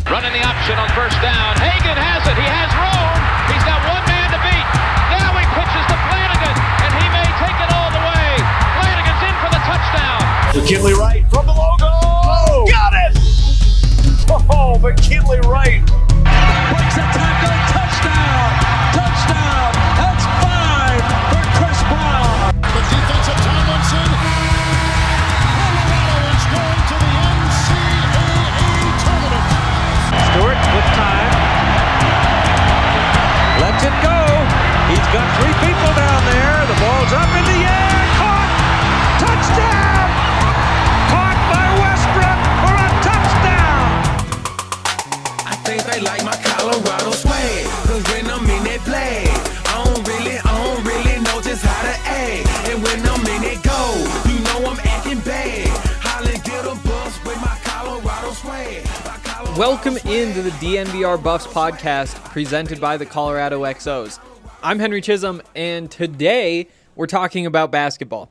Running the option on first down. Hagan has it. He has room. He's got one man to beat. Now he pitches to Flanagan, and he may take it all the way. Flanagan's in for the touchdown. McKinley Wright from the logo. Got it! Oh, McKinley Wright. Breaks a tackle. Touchdown. Touchdown. That's 5 for Chris Brown. The defense of Tomlinson. Colorado is going to the NCAA tournament. Stewart with time. Lets it go. He's got 3 people down there. The ball's up in the air. Caught. Touchdown. Caught by Westbrook for a touchdown. I think they like my Colorado swag. Cause when I'm in that play, I don't really know just how to act. And when I'm in it go, you know I'm acting bad. Holland get a bus with my Colorado swag. Welcome into the DNVR Buffs podcast presented by the Colorado XOs. I'm Henry Chisholm, and today we're talking about basketball.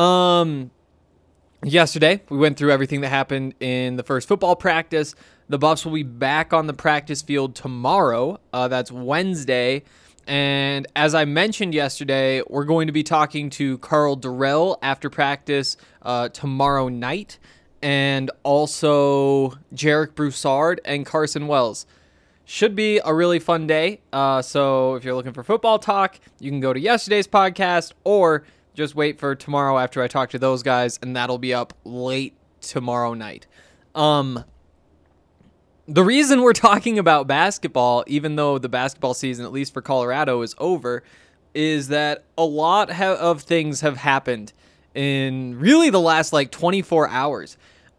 Yesterday, we went through everything that happened in the first football practice. The Buffs will be back on the practice field tomorrow. That's Wednesday. And as I mentioned yesterday, we're going to be talking to Karl Dorrell after practice tomorrow night. And also Jarek Broussard and Carson Wells. Should be a really fun day. So if you're looking for football talk, you can go to yesterday's podcast or just wait for tomorrow after I talk to those guys, and that'll be up late tomorrow night. The reason we're talking about basketball, even though the basketball season, at least for Colorado, is over, is that a lot of things have happened in really the last 24 hours.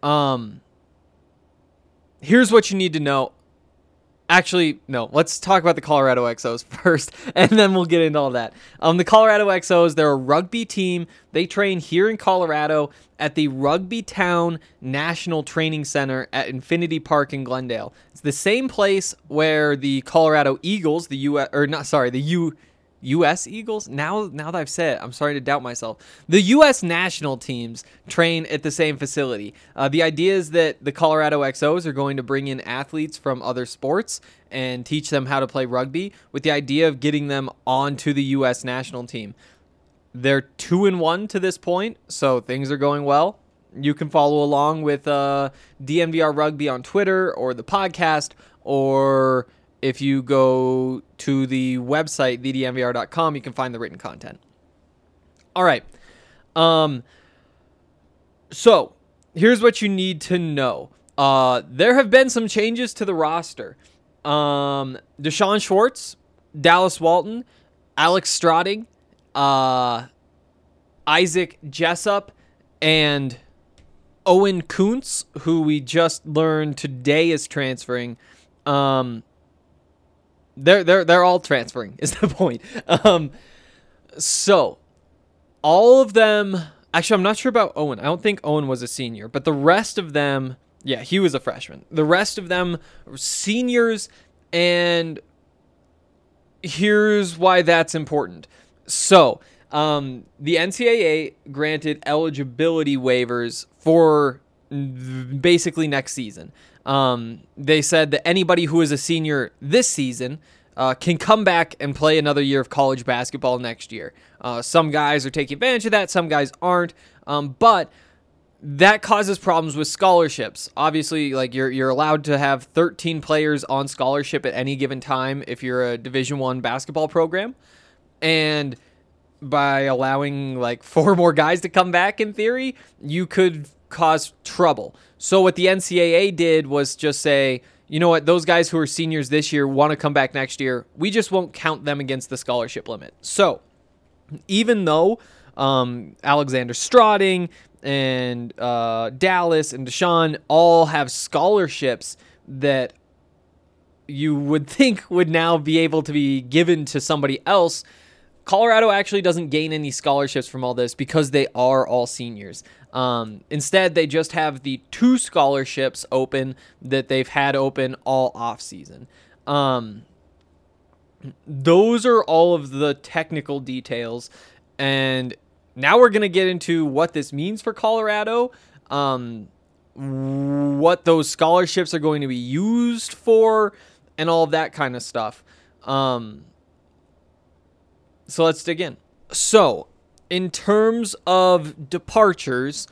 Here's what you need to know. Actually, no, let's talk about the Colorado XOs first, and then we'll get into all that. The Colorado XOs, they're a rugby team. They train here in Colorado at the Rugby Town National Training Center at Infinity Park in Glendale. It's the same place where the Colorado Eagles, the U.S. Eagles? Now that I've said it, I'm starting to doubt myself. The U.S. national teams train at the same facility. The idea is that the Colorado XOs are going to bring in athletes from other sports and teach them how to play rugby with the idea of getting them onto the U.S. national team. They're 2-1 to this point, so things are going well. You can follow along with DNVR Rugby on Twitter or the podcast, or if you go to the website, thednvr.com, you can find the written content. All right. So here's what you need to know. There have been some changes to the roster. Deshaun Schwartz, Dallas Walton, Alex Stroding, Isaac Jessup, and Owen Kuntz, who we just learned today is transferring. They're all transferring is the point. So all of them, actually, I'm not sure about Owen. I don't think Owen was a senior, but the rest of them, yeah, he was a freshman. The rest of them are seniors, and here's why that's important. So, the NCAA granted eligibility waivers for basically next season. They said that anybody who is a senior this season can come back and play another year of college basketball next year. Some guys are taking advantage of that, some guys aren't, but that causes problems with scholarships. Obviously, you're allowed to have 13 players on scholarship at any given time if you're a Division I basketball program, and by allowing 4 more guys to come back, in theory, you could cause trouble. So what the NCAA did was just say, you know what, those guys who are seniors this year want to come back next year. We just won't count them against the scholarship limit. So even though Alexander Stroding and Dallas and Deshaun all have scholarships that you would think would now be able to be given to somebody else, Colorado actually doesn't gain any scholarships from all this because they are all seniors. Instead, they just have the 2 scholarships open that they've had open all offseason. Those are all of the technical details. And now we're going to get into what this means for Colorado. what those scholarships are going to be used for, and all of that kind of stuff. So let's dig in. So, in terms of departures,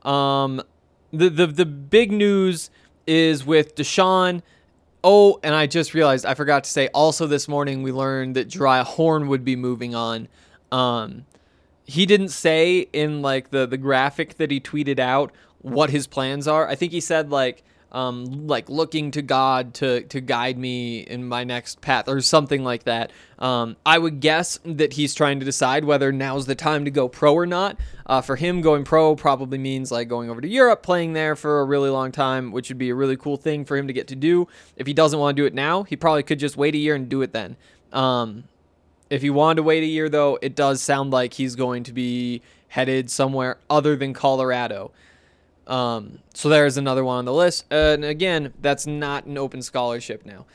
the big news is with Deshaun. Oh, and I just realized I forgot to say, also this morning we learned that Jeriah Horn would be moving on. He didn't say in like the graphic that he tweeted out what his plans are. I think he said like looking to God to guide me in my next path or something like that. I would guess that he's trying to decide whether now's the time to go pro or not. For him, going pro probably means like going over to Europe, playing there for a really long time, which would be a really cool thing for him to get to do. If he doesn't want to do it now, he probably could just wait a year and do it then. If he wanted to wait a year, though, it does sound like he's going to be headed somewhere other than Colorado. So there's another one on the list. And again, that's not an open scholarship now.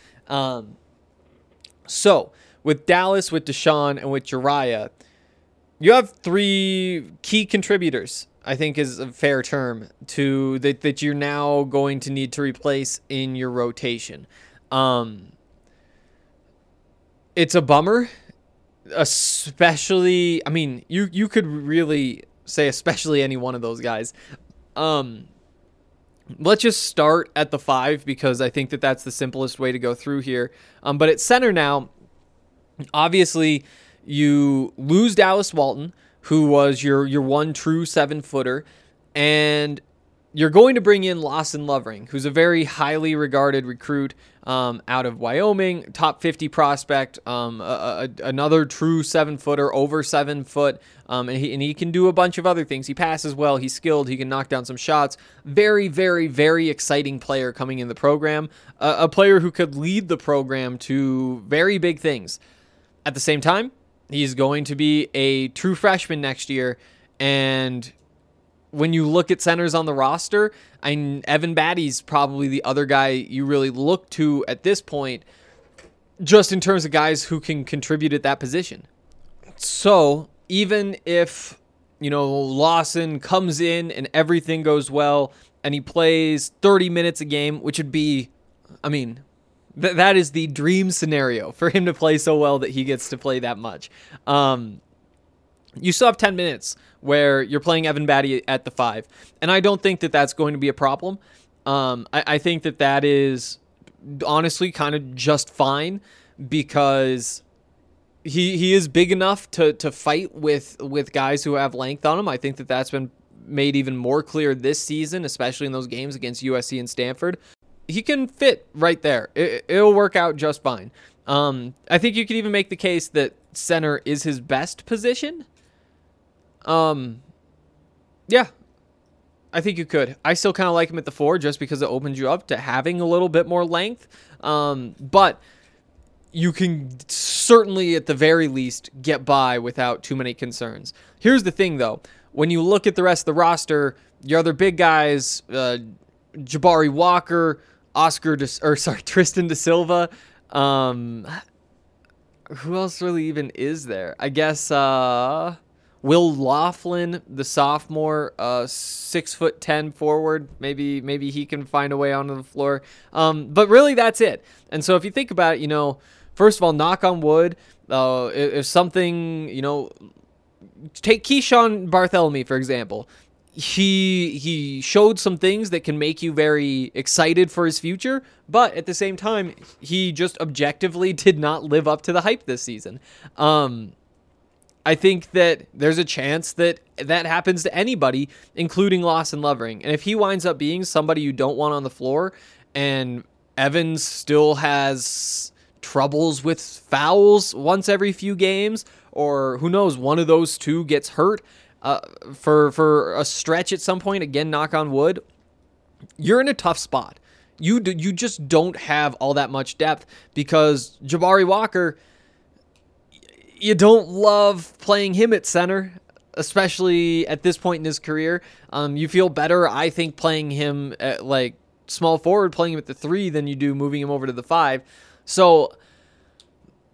So with Dallas, with Deshaun, and with Jeriah, you have 3 key contributors, I think is a fair term, to that you're now going to need to replace in your rotation. It's a bummer, especially, I mean, you could really say especially any one of those guys. Let's just start at the 5 because I think that that's the simplest way to go through here. But at center now, obviously you lose Dallas Walton, who was your one true 7-footer, and you're going to bring in Lawson Lovering, who's a very highly regarded recruit out of Wyoming, top 50 prospect, another true 7-footer, over 7 foot, and he can do a bunch of other things. He passes well, he's skilled, he can knock down some shots. Very, very, very exciting player coming in the program, a player who could lead the program to very big things. At the same time, he's going to be a true freshman next year, and when you look at centers on the roster, Evan Batty's probably the other guy you really look to at this point, just in terms of guys who can contribute at that position. So even if, Lawson comes in and everything goes well and he plays 30 minutes a game, which would be, that is the dream scenario for him to play so well that he gets to play that much. You still have 10 minutes where you're playing Evan Batty at the 5. And I don't think that that's going to be a problem. I think that is honestly kind of just fine because he is big enough to fight with guys who have length on him. I think that that's been made even more clear this season, especially in those games against USC and Stanford. He can fit right there. It'll work out just fine. I think you could even make the case that center is his best position. Yeah, I think you could. I still kind of like him at the 4 just because it opens you up to having a little bit more length. But you can certainly, at the very least, get by without too many concerns. Here's the thing, though. When you look at the rest of the roster, your other big guys, Jabari Walker, Tristan Da Silva. Who else really even is there? I guess Will Laughlin, the sophomore, 6'10" forward. Maybe he can find a way onto the floor. But really, that's it. And so if you think about it, first of all, knock on wood. If something, take Keyshawn Bartholomew, for example. He showed some things that can make you very excited for his future, but at the same time, he just objectively did not live up to the hype this season. I think that there's a chance that happens to anybody, including Lawson Lovering. And if he winds up being somebody you don't want on the floor, and Evans still has troubles with fouls once every few games, or who knows, one of those two gets hurt for a stretch at some point, again, knock on wood, you're in a tough spot. You just don't have all that much depth because Jabari Walker, you don't love playing him at center, especially at this point in his career. You feel better, I think, playing him at like small forward, playing him at the 3 than you do moving him over to the 5. So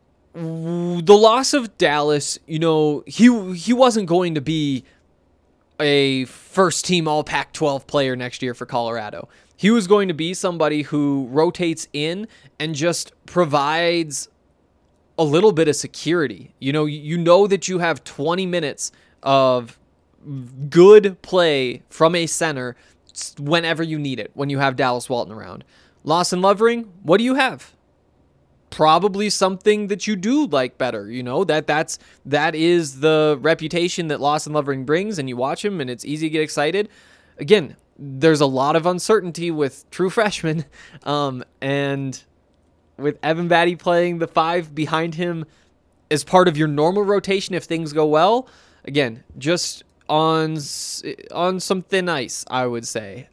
the loss of Dallas, he wasn't going to be a first-team All-Pac-12 player next year for Colorado. He was going to be somebody who rotates in and just provides a little bit of security. You know that you have 20 minutes of good play from a center whenever you need it, when you have Dallas Walton around. Lawson Lovering, what do you have? Probably something that you do like better. That is the reputation that Lawson Lovering brings, and you watch him and it's easy to get excited. Again, there's a lot of uncertainty with true freshmen, and with Evan Batty playing the 5 behind him as part of your normal rotation if things go well. Again, just on some thin ice, I would say.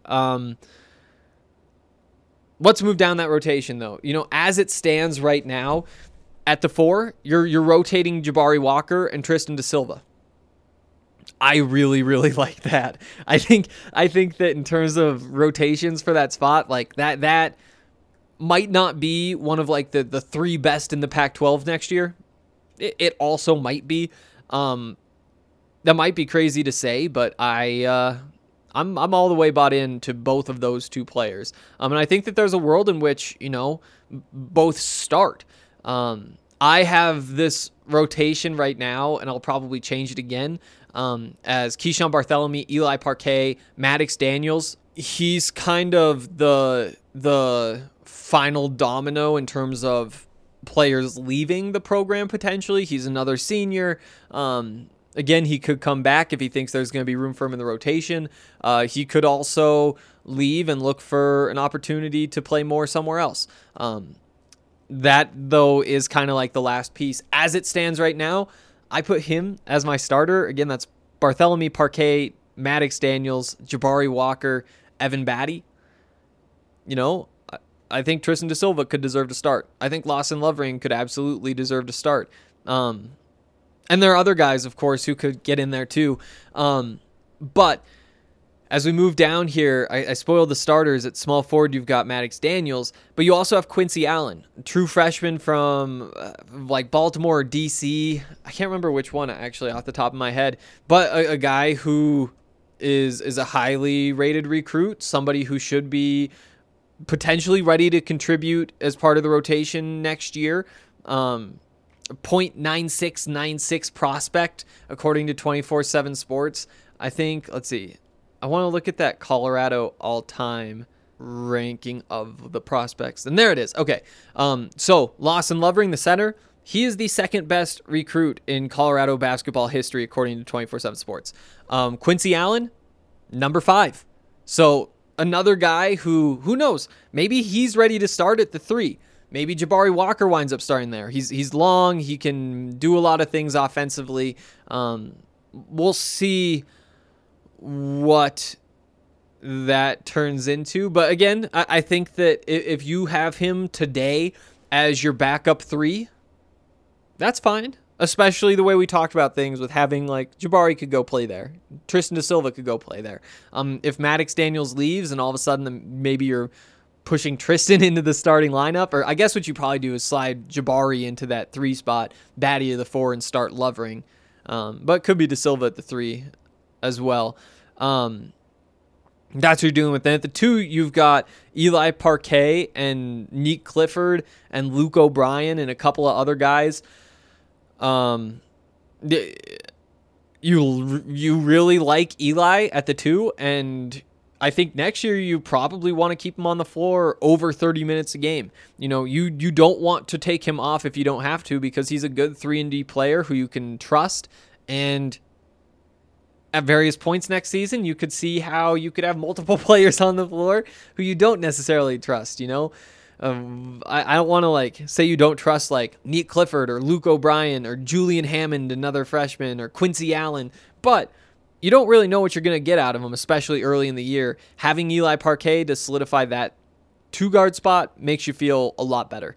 Let's move down that rotation, though. As it stands right now, at the 4, you're rotating Jabari Walker and Tristan DeSilva. I really, really like that. I think that in terms of rotations for that spot, like that might not be one of like the 3 best in the Pac-12 next year. It also might be. That might be crazy to say, but I'm all the way bought into both of those 2 players. And I think that there's a world in which, both start. I have this rotation right now, and I'll probably change it again, as Keyshawn Bartholomew, Eli Parquet, Maddox Daniels. He's kind of the final domino in terms of players leaving the program potentially. He's another senior. Again, he could come back if he thinks there's going to be room for him in the rotation. He could also leave and look for an opportunity to play more somewhere else. That, though, is kind of like the last piece. As it stands right now, I put him as my starter. Again, that's Bartholomew, Parquet, Maddox Daniels, Jabari Walker, Evan Batty. I think Tristan DeSilva could deserve to start. I think Lawson Lovering could absolutely deserve to start. And there are other guys, of course, who could get in there too. But as we move down here, I spoiled the starters. At small forward, you've got Maddox Daniels, but you also have Quincy Allen, true freshman from like Baltimore or DC. I can't remember which one actually off the top of my head, but a guy who is a highly rated recruit, somebody who should be potentially ready to contribute as part of the rotation next year. 0.9696 prospect, according to 24/7 Sports. I think, let's see. I want to look at that Colorado all-time ranking of the prospects. And there it is. Okay. So Lawson Lovering, the center, he is the second best recruit in Colorado basketball history, according to 24/7 Sports. Quincy Allen, number 5. So another guy who knows, maybe he's ready to start at the 3. Maybe Jabari Walker winds up starting there. He's long. He can do a lot of things offensively. We'll see what that turns into. But again, I think that if you have him today as your backup 3, that's fine. Especially the way we talked about things with having like Jabari could go play there. Tristan DeSilva could go play there. If Maddox Daniels leaves and all of a sudden maybe you're pushing Tristan into the starting lineup, or I guess what you probably do is slide Jabari into that 3 spot, Batty to the 4, and start Lovering. But it could be DeSilva at the 3 as well. That's what you're doing with that. At the 2, you've got Eli Parquet and Nick Clifford and Luke O'Brien and a couple of other guys. You really like Eli at the 2, and I think next year you probably want to keep him on the floor over 30 minutes a game. You don't want to take him off if you don't have to, because he's a good 3-and-D player who you can trust. And at various points next season, you could see how you could have multiple players on the floor who you don't necessarily trust. I don't want to say you don't trust Nick Clifford or Luke O'Brien or Julian Hammond, another freshman, or Quincy Allen, but you don't really know what you're going to get out of them, especially early in the year. Having Eli Parquet to solidify that 2-guard spot makes you feel a lot better.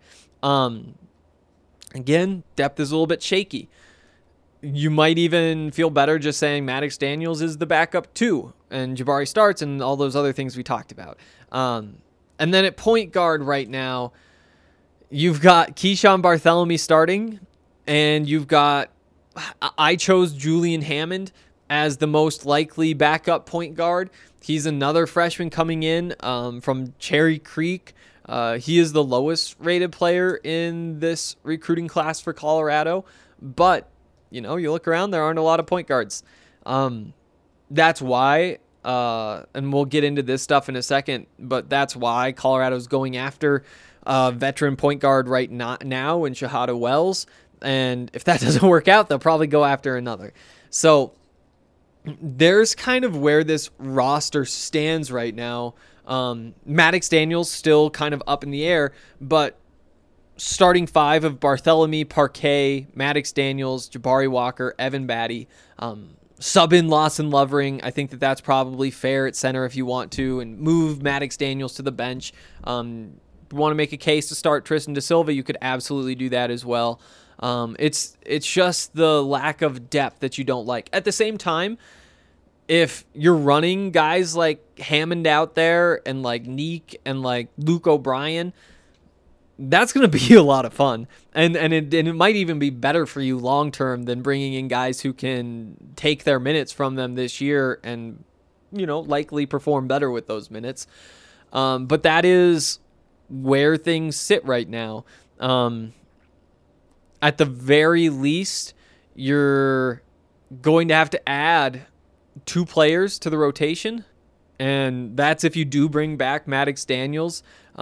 Again, depth is a little bit shaky. You might even feel better just saying Maddox Daniels is the backup 2 and Jabari starts and all those other things we talked about. And then at point guard right now, you've got Keyshawn Bartholomew starting, and I chose Julian Hammond as the most likely backup point guard. He's another freshman coming in from Cherry Creek. He is the lowest rated player in this recruiting class for Colorado. But, you look around, there aren't a lot of point guards. That's why, and we'll get into this stuff in a second, but that's why Colorado's going after veteran point guard right now in Shahada Wells. And if that doesn't work out, they'll probably go after another. So there's kind of where this roster stands right now. Maddox Daniels still kind of up in the air, but starting five of Barthélemy, Parquet, Maddox Daniels, Jabari Walker, Evan Batty, sub in Lawson Lovering. I think that's probably fair at center if you want to, and move Maddox Daniels to the bench. Want to make a case to start Tristan Da Silva, you could absolutely do that as well. It's just the lack of depth that you don't like. At the same time, if you're running guys like Hammond out there and like Neek and like Luke O'Brien, that's going to be a lot of fun. And it might even be better for you long term than bringing in guys who can take their minutes from them this year and, likely perform better with those minutes. But that is where things sit right now. At the very least, you're going to have to add 2 players to the rotation, and that's if you do bring back Maddox Daniels.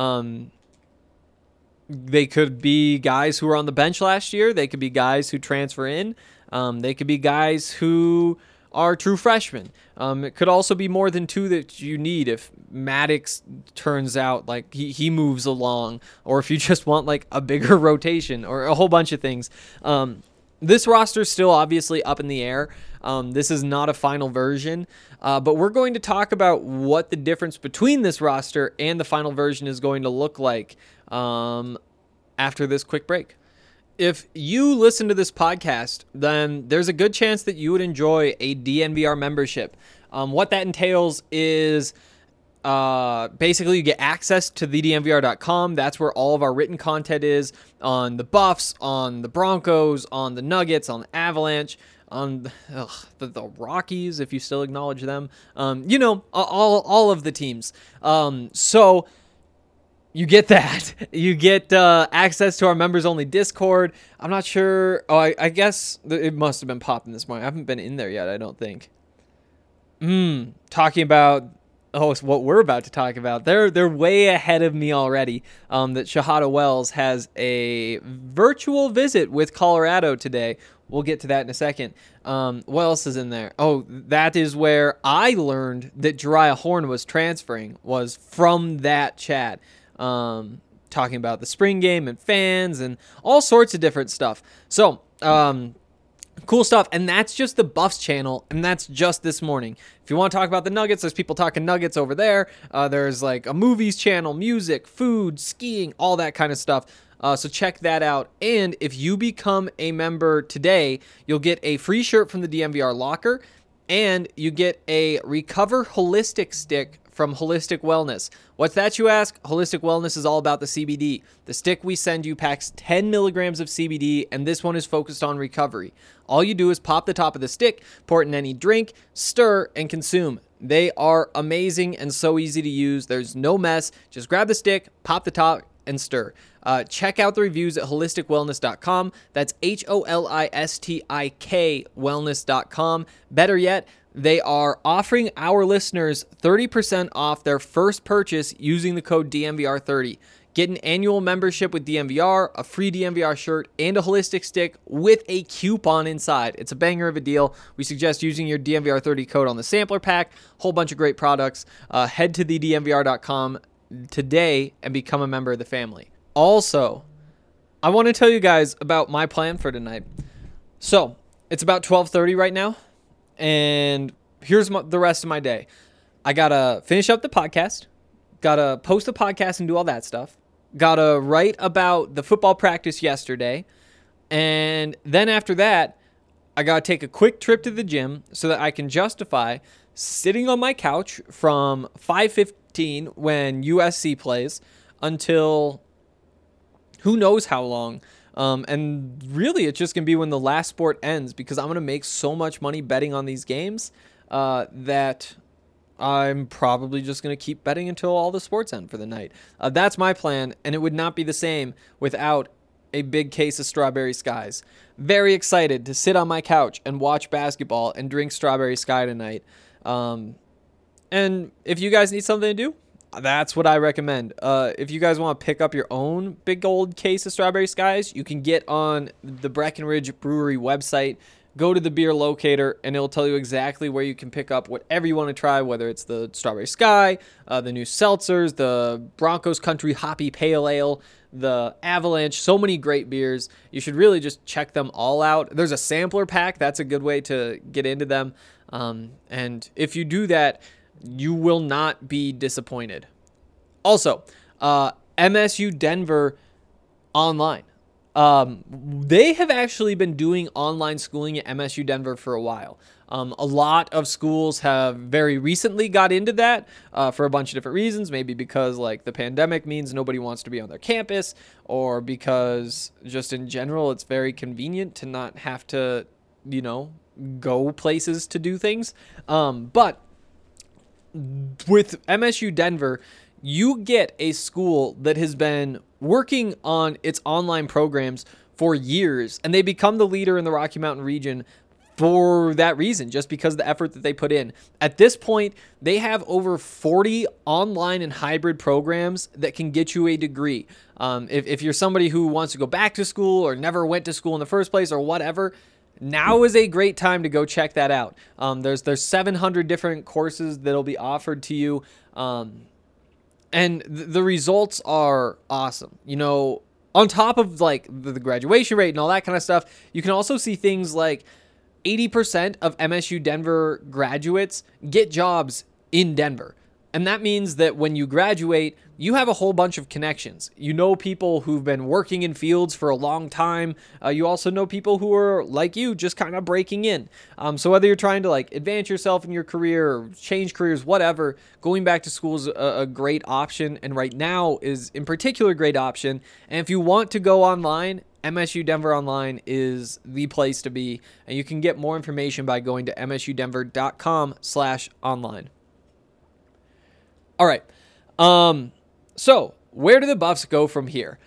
They could be guys who were on the bench last year. They could be guys who transfer in. They could be guys who are true freshmen. It could also be more than 2 that you need if Maddox turns out like he moves along, or if you just want like a bigger rotation or a whole bunch of things. This roster is still obviously up in the air. This is not a final version, but we're going to talk about what the difference between this roster and the final version is going to look like after this quick break. If you listen to this podcast, then there's a good chance that you would enjoy a DNVR membership. What that entails is basically you get access to thednvr.com. That's where all of our written content is on the Buffs, on the Broncos, on the Nuggets, on the Avalanche, on the Rockies, if you still acknowledge them. All of the teams. So you get that. You get access to our members-only Discord. I'm not sure. Oh, I guess it must have been popping this morning. I haven't been in there yet, I don't think. Talking about what we're about to talk about. They're way ahead of me already. That Shahada Wells has a virtual visit with Colorado today. We'll get to that in a second. What else is in there? Oh, that is where I learned that Jariah Horn was transferring, was from that chat. Talking about the spring game and fans and all sorts of different stuff. So, cool stuff. And that's just the Buffs channel, and that's just this morning. If you want to talk about the Nuggets, there's people talking Nuggets over there. There's like a movies channel, music, food, skiing, all that kind of stuff. So check that out. And if you become a member today, you'll get a free shirt from the DNVR locker, and you get a Recover Holistic stick from Holistic Wellness. What's that, you ask? Holistic Wellness is all about the CBD. The stick we send you packs 10 milligrams of CBD, and this one is focused on recovery. All you do is pop the top of the stick, pour it in any drink, stir, and consume. They are amazing and so easy to use. There's no mess. Just grab the stick, pop the top, and stir. Check out the reviews at holisticwellness.com. That's HOLISTIK wellness.com. Better yet, they are offering our listeners 30% off their first purchase using the code DNVR30. Get an annual membership with DNVR, a free DNVR shirt, and a holistic stick with a coupon inside. It's a banger of a deal. We suggest using your DNVR30 code on the sampler pack. Whole bunch of great products. Head to thednvr.com today and become a member of the family. Also, I want to tell you guys about my plan for tonight. So, it's about 12:30 right now, and here's the rest of my day. I got to finish up the podcast, got to post the podcast and do all that stuff, got to write about the football practice yesterday, and then after that, I got to take a quick trip to the gym so that I can justify sitting on my couch from 5:15 when USC plays until who knows how long. And really, it's just going to be when the last sport ends, because I'm going to make so much money betting on these games that I'm probably just going to keep betting until all the sports end for the night. That's my plan, and it would not be the same without a big case of Strawberry Skies. Very excited to sit on my couch and watch basketball and drink Strawberry Sky tonight. And if you guys need something to do, that's what I recommend. If you guys want to pick up your own big old case of Strawberry Skies, you can get on the Breckenridge Brewery website. Go to the beer locator, and it'll tell you exactly where you can pick up whatever you want to try, whether it's the Strawberry Sky, the new seltzers, the Broncos Country Hoppy Pale Ale, the Avalanche, so many great beers. You should really just check them all out. There's a sampler pack. That's a good way to get into them. And if you do that, you will not be disappointed. Also, MSU Denver online. They have actually been doing online schooling at MSU Denver for a while. A lot of schools have very recently got into that for a bunch of different reasons. Maybe because like the pandemic means nobody wants to be on their campus, or because just in general it's very convenient to not have to, go places to do things. But with MSU Denver, you get a school that has been working on its online programs for years, and they become the leader in the Rocky Mountain region for that reason, just because of the effort that they put in. At this point, they have over 40 online and hybrid programs that can get you a degree. If you're somebody who wants to go back to school or never went to school in the first place or whatever, now is a great time to go check that out. There's 700 different courses that'll be offered to you. And the results are awesome. On top of like the graduation rate and all that kind of stuff, you can also see things like 80% of MSU Denver graduates get jobs in Denver. And that means that when you graduate, you have a whole bunch of connections. You know people who've been working in fields for a long time. You also know people who are like you, just kind of breaking in. So whether you're trying to like advance yourself in your career or change careers, whatever, going back to school is a great option. And right now is in particular a great option. And if you want to go online, MSU Denver Online is the place to be. And you can get more information by going to msudenver.com/online. All right. So where do the Buffs go from here?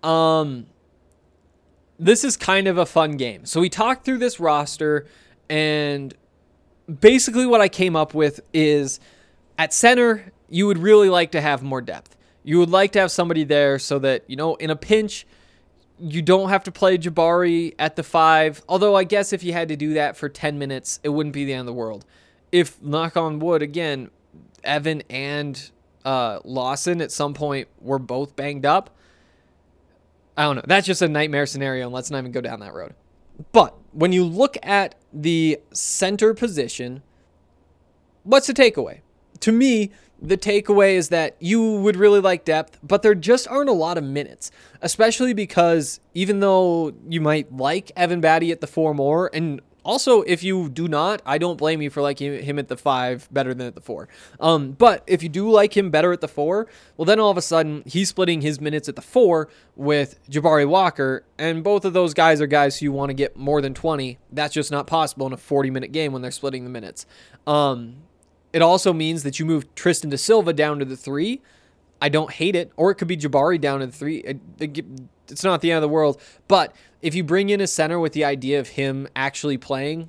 This is kind of a fun game. So we talked through this roster, and basically what I came up with is at center, you would really like to have more depth. You would like to have somebody there so that, in a pinch, you don't have to play Jabari at the 5. Although I guess if you had to do that for 10 minutes, it wouldn't be the end of the world. If, knock on wood, again, Evan and Lawson at some point were both banged up, I don't know. That's just a nightmare scenario, and let's not even go down that road. But when you look at the center position, what's the takeaway? To me, the takeaway is that you would really like depth, but there just aren't a lot of minutes, especially because even though you might like Evan Batty at the 4 more, and also, if you do not, I don't blame you for liking him at the 5 better than at the 4. But if you do like him better at the 4, well, then all of a sudden, he's splitting his minutes at the 4 with Jabari Walker, and both of those guys are guys who want to get more than 20. That's just not possible in a 40-minute game when they're splitting the minutes. It also means that you move Tristan Da Silva down to the 3. I don't hate it. Or it could be Jabari down to the 3. It's not the end of the world. But if you bring in a center with the idea of him actually playing,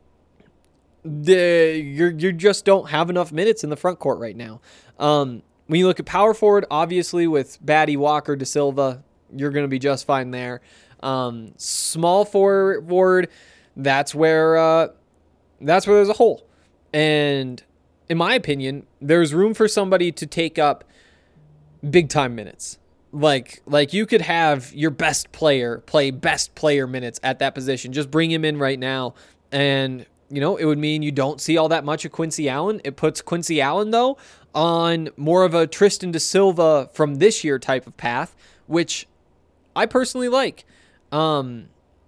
you just don't have enough minutes in the front court right now. When you look at power forward, obviously with Batty, Walker, Da Silva, you're going to be just fine there. Small forward, that's where there's a hole. And in my opinion, there's room for somebody to take up big time minutes. Like you could have your best player play best player minutes at that position. Just bring him in right now. And, it would mean you don't see all that much of Quincy Allen. It puts Quincy Allen, though, on more of a Tristan Da Silva from this year type of path, which I personally like. Who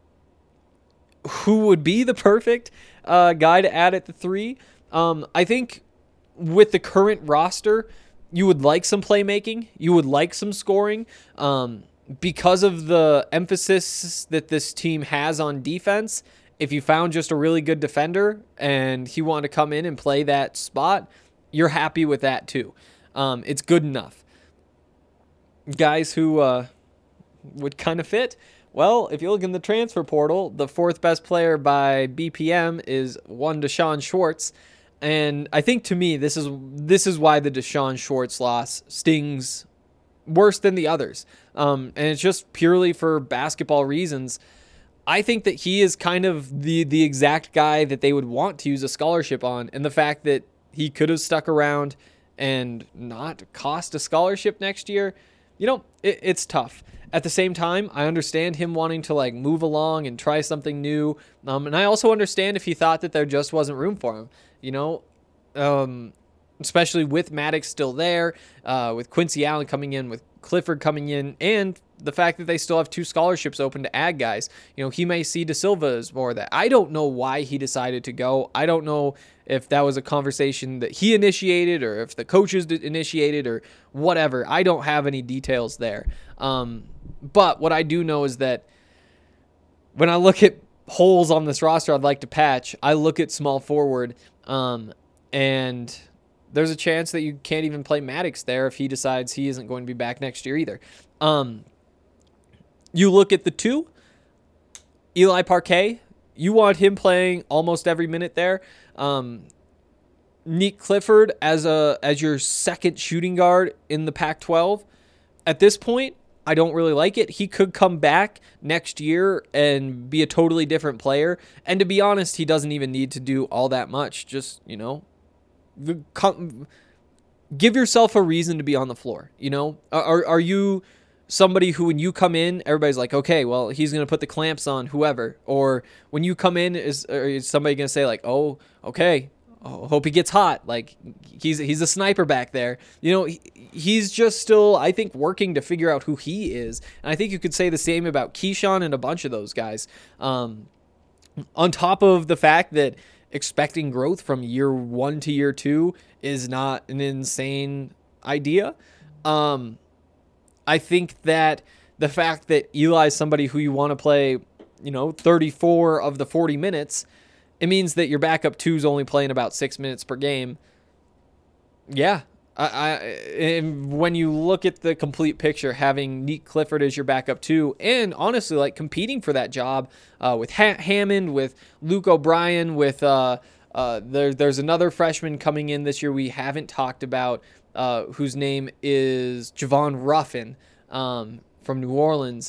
would be the perfect guy to add at the 3? I think with the current roster, you would like some playmaking. You would like some scoring. because of the emphasis that this team has on defense, if you found just a really good defender and he wanted to come in and play that spot, you're happy with that too. It's good enough. Guys who would kind of fit, well, if you look in the transfer portal, the fourth best player by BPM is one Deshaun Schwartz. And I think, to me, this is why the Deshaun Schwartz loss stings worse than the others. And it's just purely for basketball reasons. I think that he is kind of the exact guy that they would want to use a scholarship on. And the fact that he could have stuck around and not cost a scholarship next year, it's tough. At the same time, I understand him wanting to move along and try something new. And I also understand if he thought that there just wasn't room for him. Especially with Maddox still there, with Quincy Allen coming in, with Clifford coming in, and the fact that they still have 2 scholarships open to add guys. He may see De Silva as more of that. I don't know why he decided to go. I don't know if that was a conversation that he initiated or if the coaches initiated or whatever. I don't have any details there. But what I do know is that when I look at holes on this roster I'd like to patch, I look at small forward, and there's a chance that you can't even play Maddox there if he decides he isn't going to be back next year either. You look at the 2, Eli Parquet, you want him playing almost every minute there. Nick Clifford as your second shooting guard in the Pac-12. At this point, I don't really like it. He could come back next year and be a totally different player. And to be honest, he doesn't even need to do all that much. Just, give yourself a reason to be on the floor. Are you somebody who, when you come in, everybody's like, okay, well, he's going to put the clamps on whoever? Or when you come in, is somebody going to say oh, okay, hope he gets hot. He's a sniper back there. He's just still, I think, working to figure out who he is. And I think you could say the same about Keyshawn and a bunch of those guys. On top of the fact that expecting growth from year 1 to year 2 is not an insane idea. I think that the fact that Eli is somebody who you want to play, 34 of the 40 minutes, it means that your backup 2 is only playing about 6 minutes per game. Yeah. And when you look at the complete picture, having Nick Clifford as your backup 2, and honestly, competing for that job with Hammond, with Luke O'Brien, with there's another freshman coming in this year we haven't talked about, whose name is Javon Ruffin from New Orleans.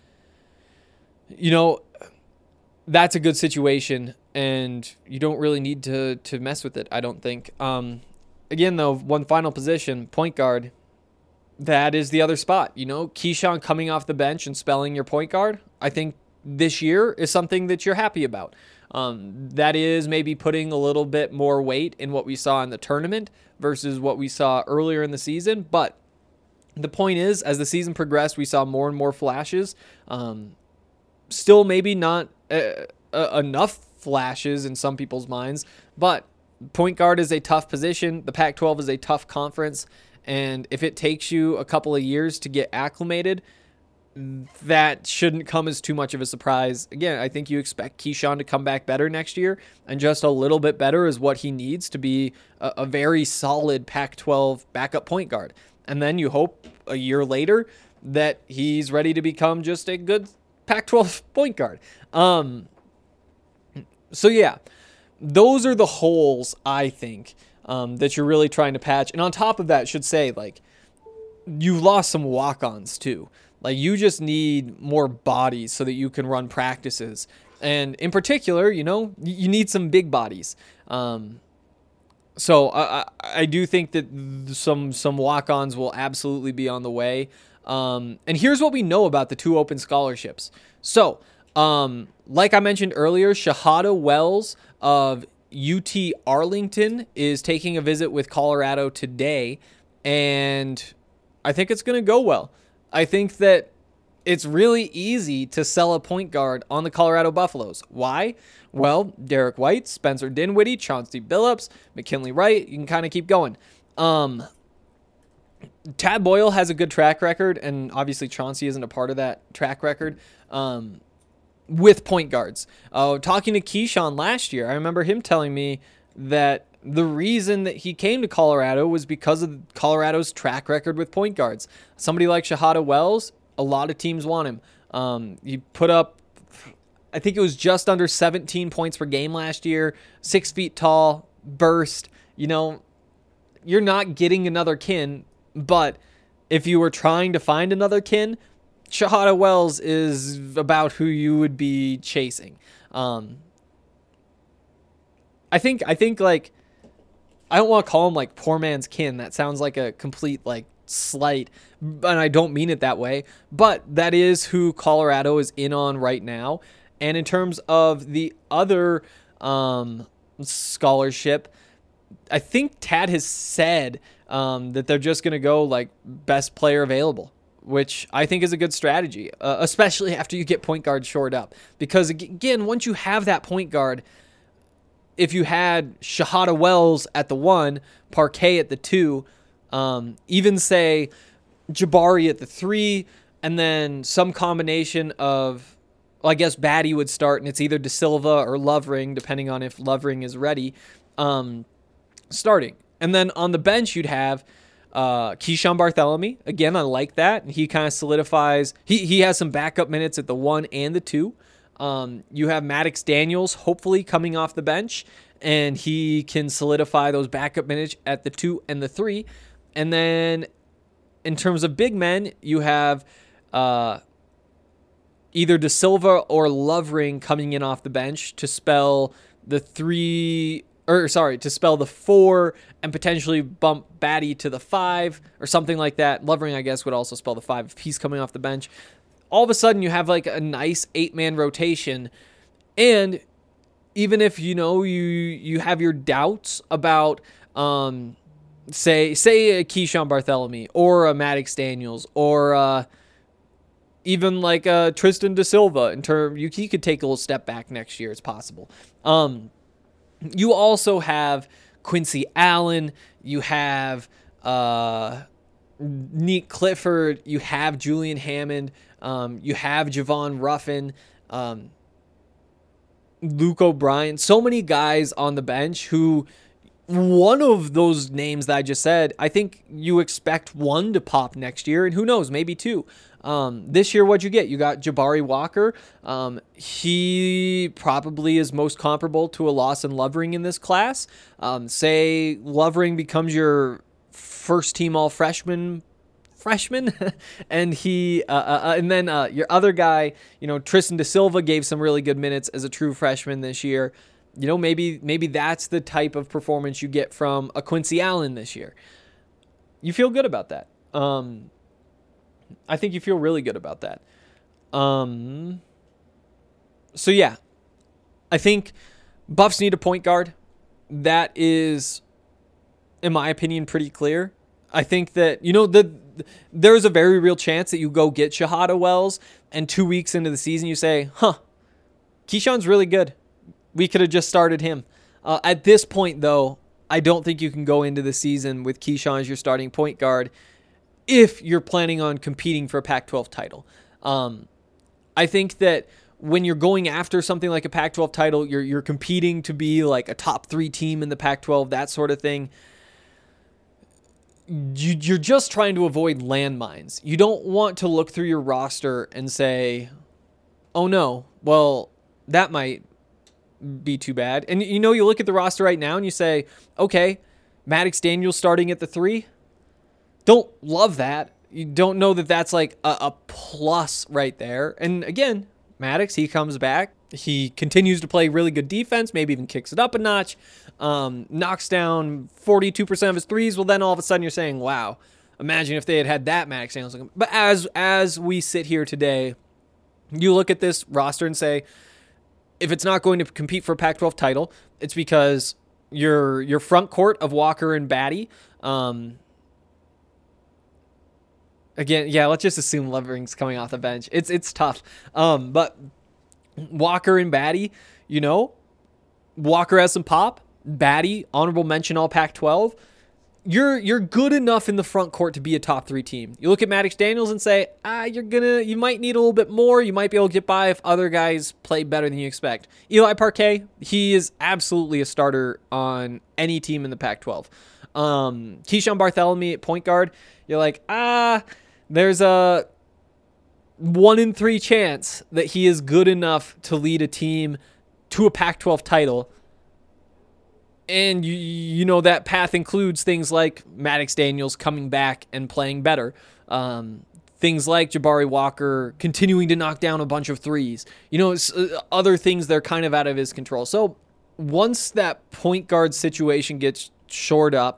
That's a good situation, and you don't really need to mess with it, I don't think. Again, though, one final position, point guard, that is the other spot. Keyshawn coming off the bench and spelling your point guard, I think this year is something that you're happy about. That is maybe putting a little bit more weight in what we saw in the tournament versus what we saw earlier in the season. But the point is, as the season progressed, we saw more and more flashes. Still maybe not enough flashes in some people's minds, but point guard is a tough position. The Pac-12 is a tough conference, and if it takes you a couple of years to get acclimated, that shouldn't come as too much of a surprise. Again, I think you expect Keyshawn to come back better next year, and just a little bit better is what he needs to be a very solid Pac-12 backup point guard. And then you hope a year later that he's ready to become just a good Pac-12 point guard. So yeah, those are the holes, I think, that you're really trying to patch. And on top of that, should say, you've lost some walk-ons too. You just need more bodies so that you can run practices. And in particular, you need some big bodies. So I do think that some walk-ons will absolutely be on the way. And here's what we know about the 2 open scholarships. So, like I mentioned earlier, Shahada Wells of UT Arlington is taking a visit with Colorado today, and I think it's going to go well. I think that it's really easy to sell a point guard on the Colorado Buffaloes. Why? Well, Derek White, Spencer Dinwiddie, Chauncey Billups, McKinley Wright, you can kind of keep going. Tad Boyle has a good track record, and obviously Chauncey isn't a part of that track record with point guards. Talking to Keyshawn last year, I remember him telling me that the reason that he came to Colorado was because of Colorado's track record with point guards. Somebody like Shahada Wells, a lot of teams want him. He put up, I think it was just under 17 points per game last year, 6 feet tall, burst. You're not getting another kin, but if you were trying to find another kin, Shahada Wells is about who you would be chasing. I think like, I don't want to call him like poor man's kin. That sounds like a complete like slight, and I don't mean it that way, but that is who Colorado is in on right now. And in terms of the other scholarship, I think Tad has said that they're just going to go like best player available, which I think is a good strategy, especially after you get point guard shored up. Because again, once you have that point guard, if you had Shahada Wells at the 1, Parquet at the 2, even say Jabari at the 3, and then some combination of, well, I guess Batty would start, and it's either De Silva or Lovering, depending on if Lovering is ready, starting. And then on the bench, you'd have Keyshawn Bartholomew. Again, I like that. He kind of solidifies. He has some backup minutes at the 1 and the 2. You have Maddox Daniels hopefully coming off the bench, and he can solidify those backup minutes at the 2 and the 3. And then in terms of big men, you have either De Silva or Lovering coming in off the bench to spell the 4 and potentially bump Batty to the 5 or something like that. Lovering, I guess, would also spell the 5 if he's coming off the bench. All of a sudden, you have like a nice 8-man rotation. And even if, you have your doubts about, say a Keyshawn Bartholomew or a Maddox Daniels or even like Tristan De Silva, he could take a little step back next year. It's possible. You also have Quincy Allen. You have Nick Clifford. You have Julian Hammond. You have Javon Ruffin. Luke O'Brien. So many guys on the bench who, one of those names that I just said, I think you expect one to pop next year, and who knows, maybe 2. This year, what'd you get? You got Jabari Walker. He probably is most comparable to a Lawson Lovering in this class. Say Lovering becomes your first team all freshman, and and then your other guy, Tristan De Silva gave some really good minutes as a true freshman this year. Maybe that's the type of performance you get from a Quincy Allen this year. You feel good about that. I think you feel really good about that. So yeah, I think Buffs need a point guard. That is, in my opinion, pretty clear. I think that, there's a very real chance that you go get Shahada Wells and 2 weeks into the season you say, Keyshawn's really good. We could have just started him. At this point, though, I don't think you can go into the season with Keyshawn as your starting point guard if you're planning on competing for a Pac-12 title. I think that when you're going after something like a Pac-12 title, you're competing to be like a top 3 team in the Pac-12, that sort of thing. You're just trying to avoid landmines. You don't want to look through your roster and say, oh no, well, that might be too bad. And you look at the roster right now and you say, okay, Maddox Daniels starting at the 3. Don't love that. You don't know that that's like a plus right there. And again, Maddox, he comes back. He continues to play really good defense, maybe even kicks it up a notch, knocks down 42% of his threes. Well, then all of a sudden you're saying, wow, imagine if they had that Maddox Daniels. But as we sit here today, you look at this roster and say, if it's not going to compete for a Pac-12 title, it's because your front court of Walker and Batty, again, yeah, let's just assume Lovering's coming off the bench. It's tough. But Walker and Batty, Walker has some pop. Batty, honorable mention all Pac-12. you're good enough in the front court to be a top 3 team. You look at Maddox Daniels and say, you might need a little bit more. You might be able to get by if other guys play better than you expect. Eli Parquet, he is absolutely a starter on any team in the Pac-12. Keyshawn Bartholomew at point guard, you're like, there's a 1 in 3 chance that he is good enough to lead a team to a Pac-12 title. And you know that path includes things like Maddox Daniels coming back and playing better. Things like Jabari Walker continuing to knock down a bunch of threes. Other things that are kind of out of his control. So once that point guard situation gets shored up,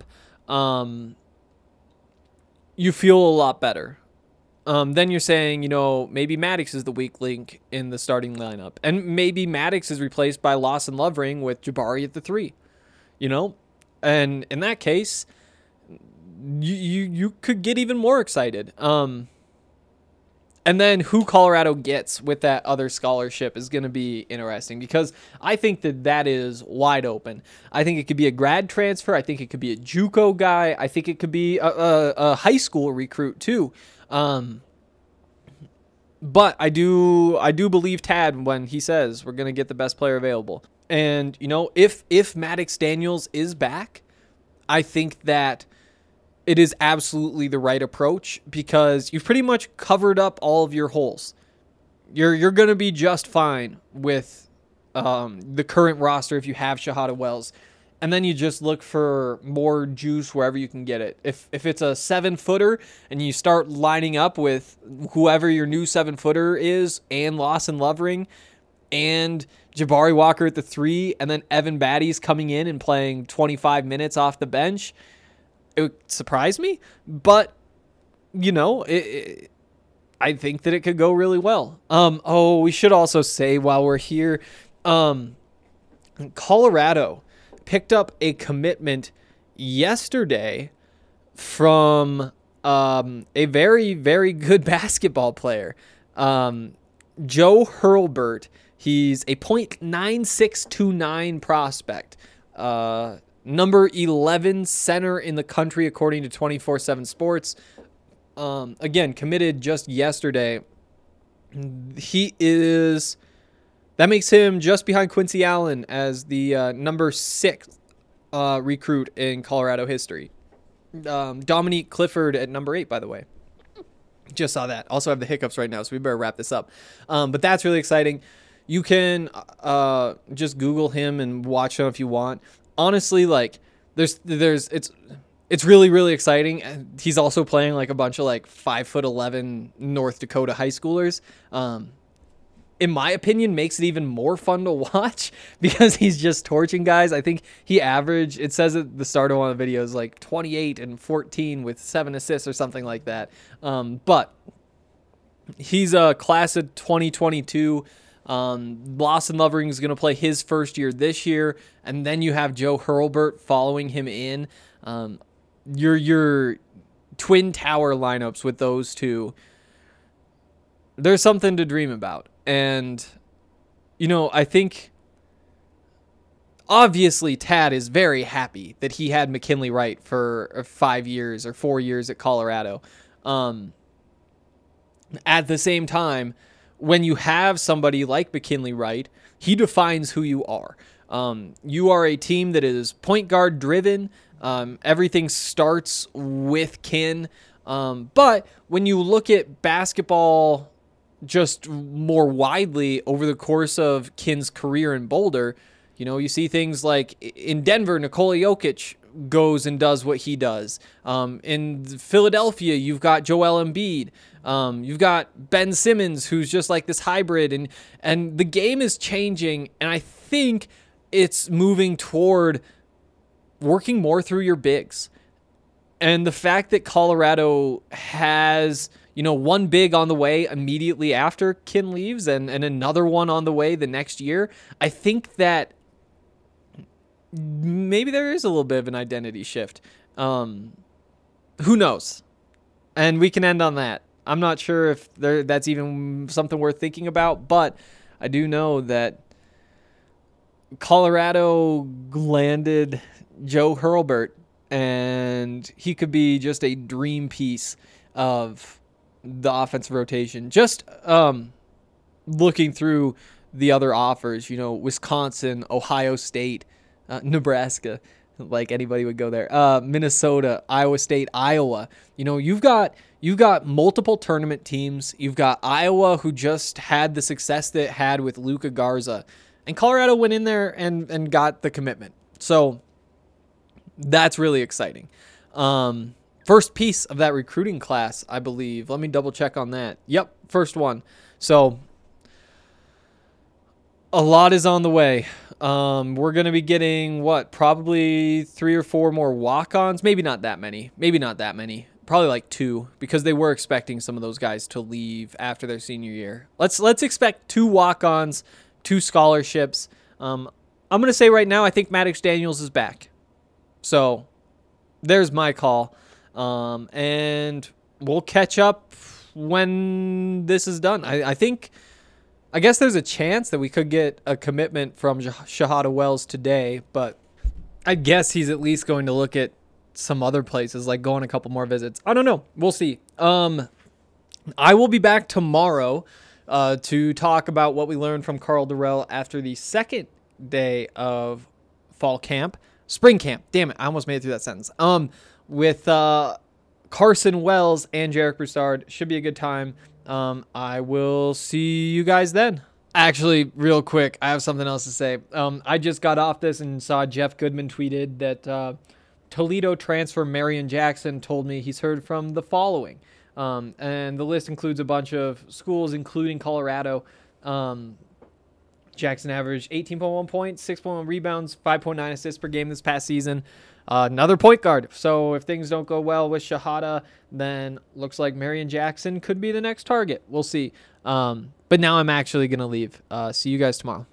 you feel a lot better. Then you're saying, maybe Maddox is the weak link in the starting lineup. And maybe Maddox is replaced by Lawson Lovering with Jabari at the 3. And in that case, you could get even more excited. And then who Colorado gets with that other scholarship is going to be interesting, because I think that is wide open. I think it could be a grad transfer. I think it could be a JUCO guy. I think it could be a high school recruit too. But I do believe Tad when he says we're going to get the best player available. And, if Maddox Daniels is back, I think that it is absolutely the right approach, because you've pretty much covered up all of your holes. You're going to be just fine with the current roster if you have Shahada Wells. And then you just look for more juice wherever you can get it. If it's a 7-footer and you start lining up with whoever your new 7-footer is, and Lawson Lovering, and Jabari Walker at the 3, and then Evan Batty's coming in and playing 25 minutes off the bench, it would surprise me. But, I think that it could go really well. We should also say while we're here, Colorado picked up a commitment yesterday from a very, very good basketball player, Joe Hurlburt. He's a .9629 prospect, number 11 center in the country, according to 24/7 Sports. Again, committed just yesterday. That makes him just behind Quincy Allen as the number 6 recruit in Colorado history. Dominique Clifford at number 8, by the way. Just saw that. Also have the hiccups right now, so we better wrap this up. But that's really exciting. You can just Google him and watch him if you want. Honestly, it's really, really exciting. He's also playing like a bunch of 5'11" North Dakota high schoolers. In my opinion, makes it even more fun to watch because he's just torching guys. I think he averaged, it says at the start of one of the videos, 28 and 14 with 7 assists or something like that. But he's a class of 2022. Lawson Lovering is going to play his first year this year, and then you have Joe Hurlburt following him in. Your twin tower lineups with those two, there's something to dream about. And, I think obviously Tad is very happy that he had McKinley Wright for 5 years or 4 years at Colorado. At the same time, when you have somebody like McKinley Wright, he defines who you are. You are a team that is point guard driven. Everything starts with Kin. But when you look at basketball just more widely over the course of Kin's career in Boulder, you see things like in Denver, Nikola Jokic goes and does what he does. In Philadelphia, you've got Joel Embiid. You've got Ben Simmons, who's just like this hybrid, and the game is changing, and I think it's moving toward working more through your bigs. And the fact that Colorado has, one big on the way immediately after Kin leaves and another one on the way the next year, I think that maybe there is a little bit of an identity shift. Who knows? And we can end on that. I'm not sure if that's even something worth thinking about, but I do know that Colorado landed Joe Hurlburt and he could be just a dream piece of the offensive rotation. Just looking through the other offers, Wisconsin, Ohio State, Nebraska, like anybody would go there, Minnesota, Iowa State, Iowa. You've got multiple tournament teams. You've got Iowa, who just had the success that it had with Luka Garza, and Colorado went in there and got the commitment. So that's really exciting. First piece of that recruiting class, I believe. Let me double check on that. Yep, first one. So a lot is on the way. We're going to be getting, probably 3 or 4 more walk-ons. Maybe not that many. Probably like 2, because they were expecting some of those guys to leave after their senior year. Let's expect 2 walk-ons, 2 scholarships. I'm going to say right now, I think Maddox Daniels is back. So there's my call. And we'll catch up when this is done. I guess there's a chance that we could get a commitment from Shahada Wells today, but I guess he's at least going to look at some other places, like go on a couple more visits. I don't know. We'll see. I will be back tomorrow to talk about what we learned from Karl Dorrell after the second day of fall camp. Spring camp. Damn it. I almost made it through that sentence. With Carson Wells and Jarek Broussard. Should be a good time. I will see you guys then. Actually, real quick, I have something else to say. I just got off this and saw Jeff Goodman tweeted that Toledo transfer Marion Jackson told me he's heard from the following. And the list includes a bunch of schools, including Colorado. Jackson averaged 18.1 points, 6.1 rebounds, 5.9 assists per game this past season. Another point guard. So if things don't go well with Shahada, then looks like Marion Jackson could be the next target. We'll see. But now I'm actually going to leave. See you guys tomorrow.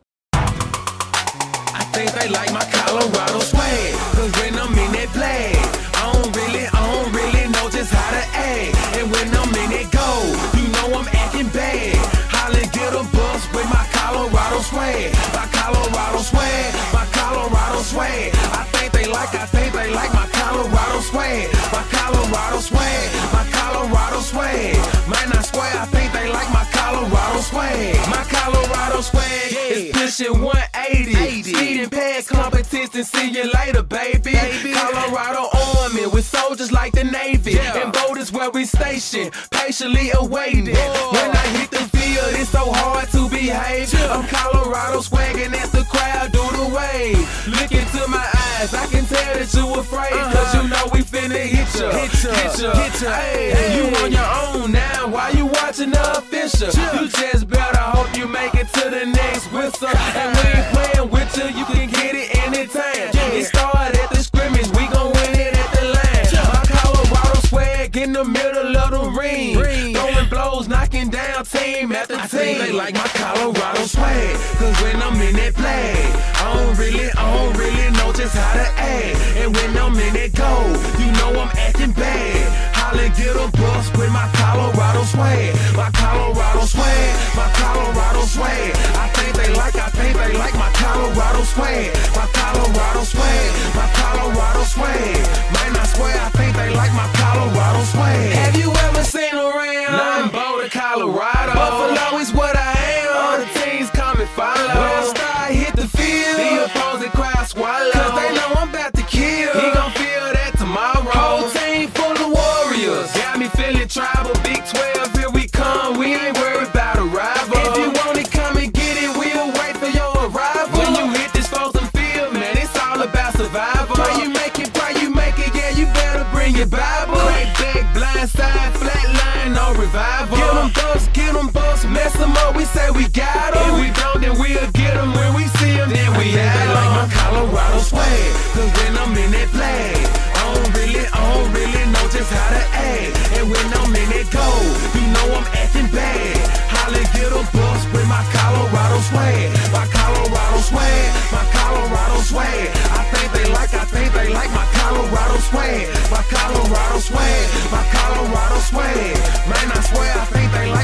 I think they like my Colorado swag, cause when I'm in that play, I don't really know just how to act. And when I'm in that go, you know I'm acting bad. Holla, get a bus with my Colorado swag. My Colorado swag, my Colorado swag. I think they like my Colorado swag. My Colorado swag, my Colorado swag. Man, I swear I think they like my Colorado swag. My Colorado swag is pushing 180. Speeding past competition, see you later, baby. Colorado Army with soldiers like the Navy. And boat is where we station, patiently awaiting. When I hit the field, it's so hard to behave. I'm Colorado swagging as the crowd do the wave. Look into my eyes, I can tell that you afraid. Cause you know we finna hit ya. Hey, you on your own now, why you watching the official? You just better hope you make it to the next whistle. And we ain't playing with you, you can get it anytime. It started at the scrimmage, we gon' win it at the line. My Colorado swag in the middle of the ring. Throwing blows, knocking down team after team. I think they like my Colorado swag, cause when I'm in that play, I don't really know just how to act. And when I'm in that go, you know I'm acting bad. Holla, get a bus with my Colorado swag. My Colorado swag, my Colorado swag. I think they like my Colorado swag. My Colorado swag, my Colorado swag. Man, I swear I think they like my Colorado swag. Have you ever seen around? Nothing but Colorado. Buffalo is what I am. All the teams come and follow. When I start hit the field, the opposing crowd swallow. Cause they know I'm about to kill. He gon' feel that tomorrow. Whole team full of warriors. Got me feeling tribal. Big 12, here we come. We ain't worried about a rival. If you want it, come and get it. We'll wait for your arrival. When you hit this frozen field, man, it's all about survival. Pray you make it, yeah, you better bring your Bible. Crack back, blind side, flat line, no revival. Get them bucks, mess them up, we say we got them. If we don't, then we'll get them. When we see them, then we have them. They like my Colorado swag, cause when I'm in that flag, I don't really know just how to act. And when I'm in that go, you know I'm acting bad. Holla, get a bus with my Colorado swag. My Colorado swag, my Colorado swag. I think they like my Colorado swag. My Colorado swag, my Colorado swag. Man, I swear I think they like my Colorado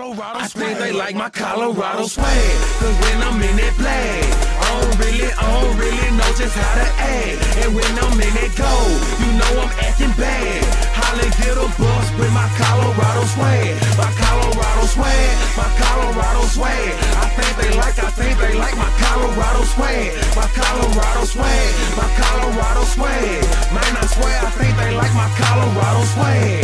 Colorado swag. I think they like my Colorado swag. Cause when I'm in that flag, I don't really know just how to act. And when I'm in that gold, you know I'm acting bad. Holly get a bus with my Colorado swag. My Colorado swag, my Colorado swag. I think they like my Colorado swag. My Colorado swag, my Colorado swag. Man, I swear I think they like my Colorado swag.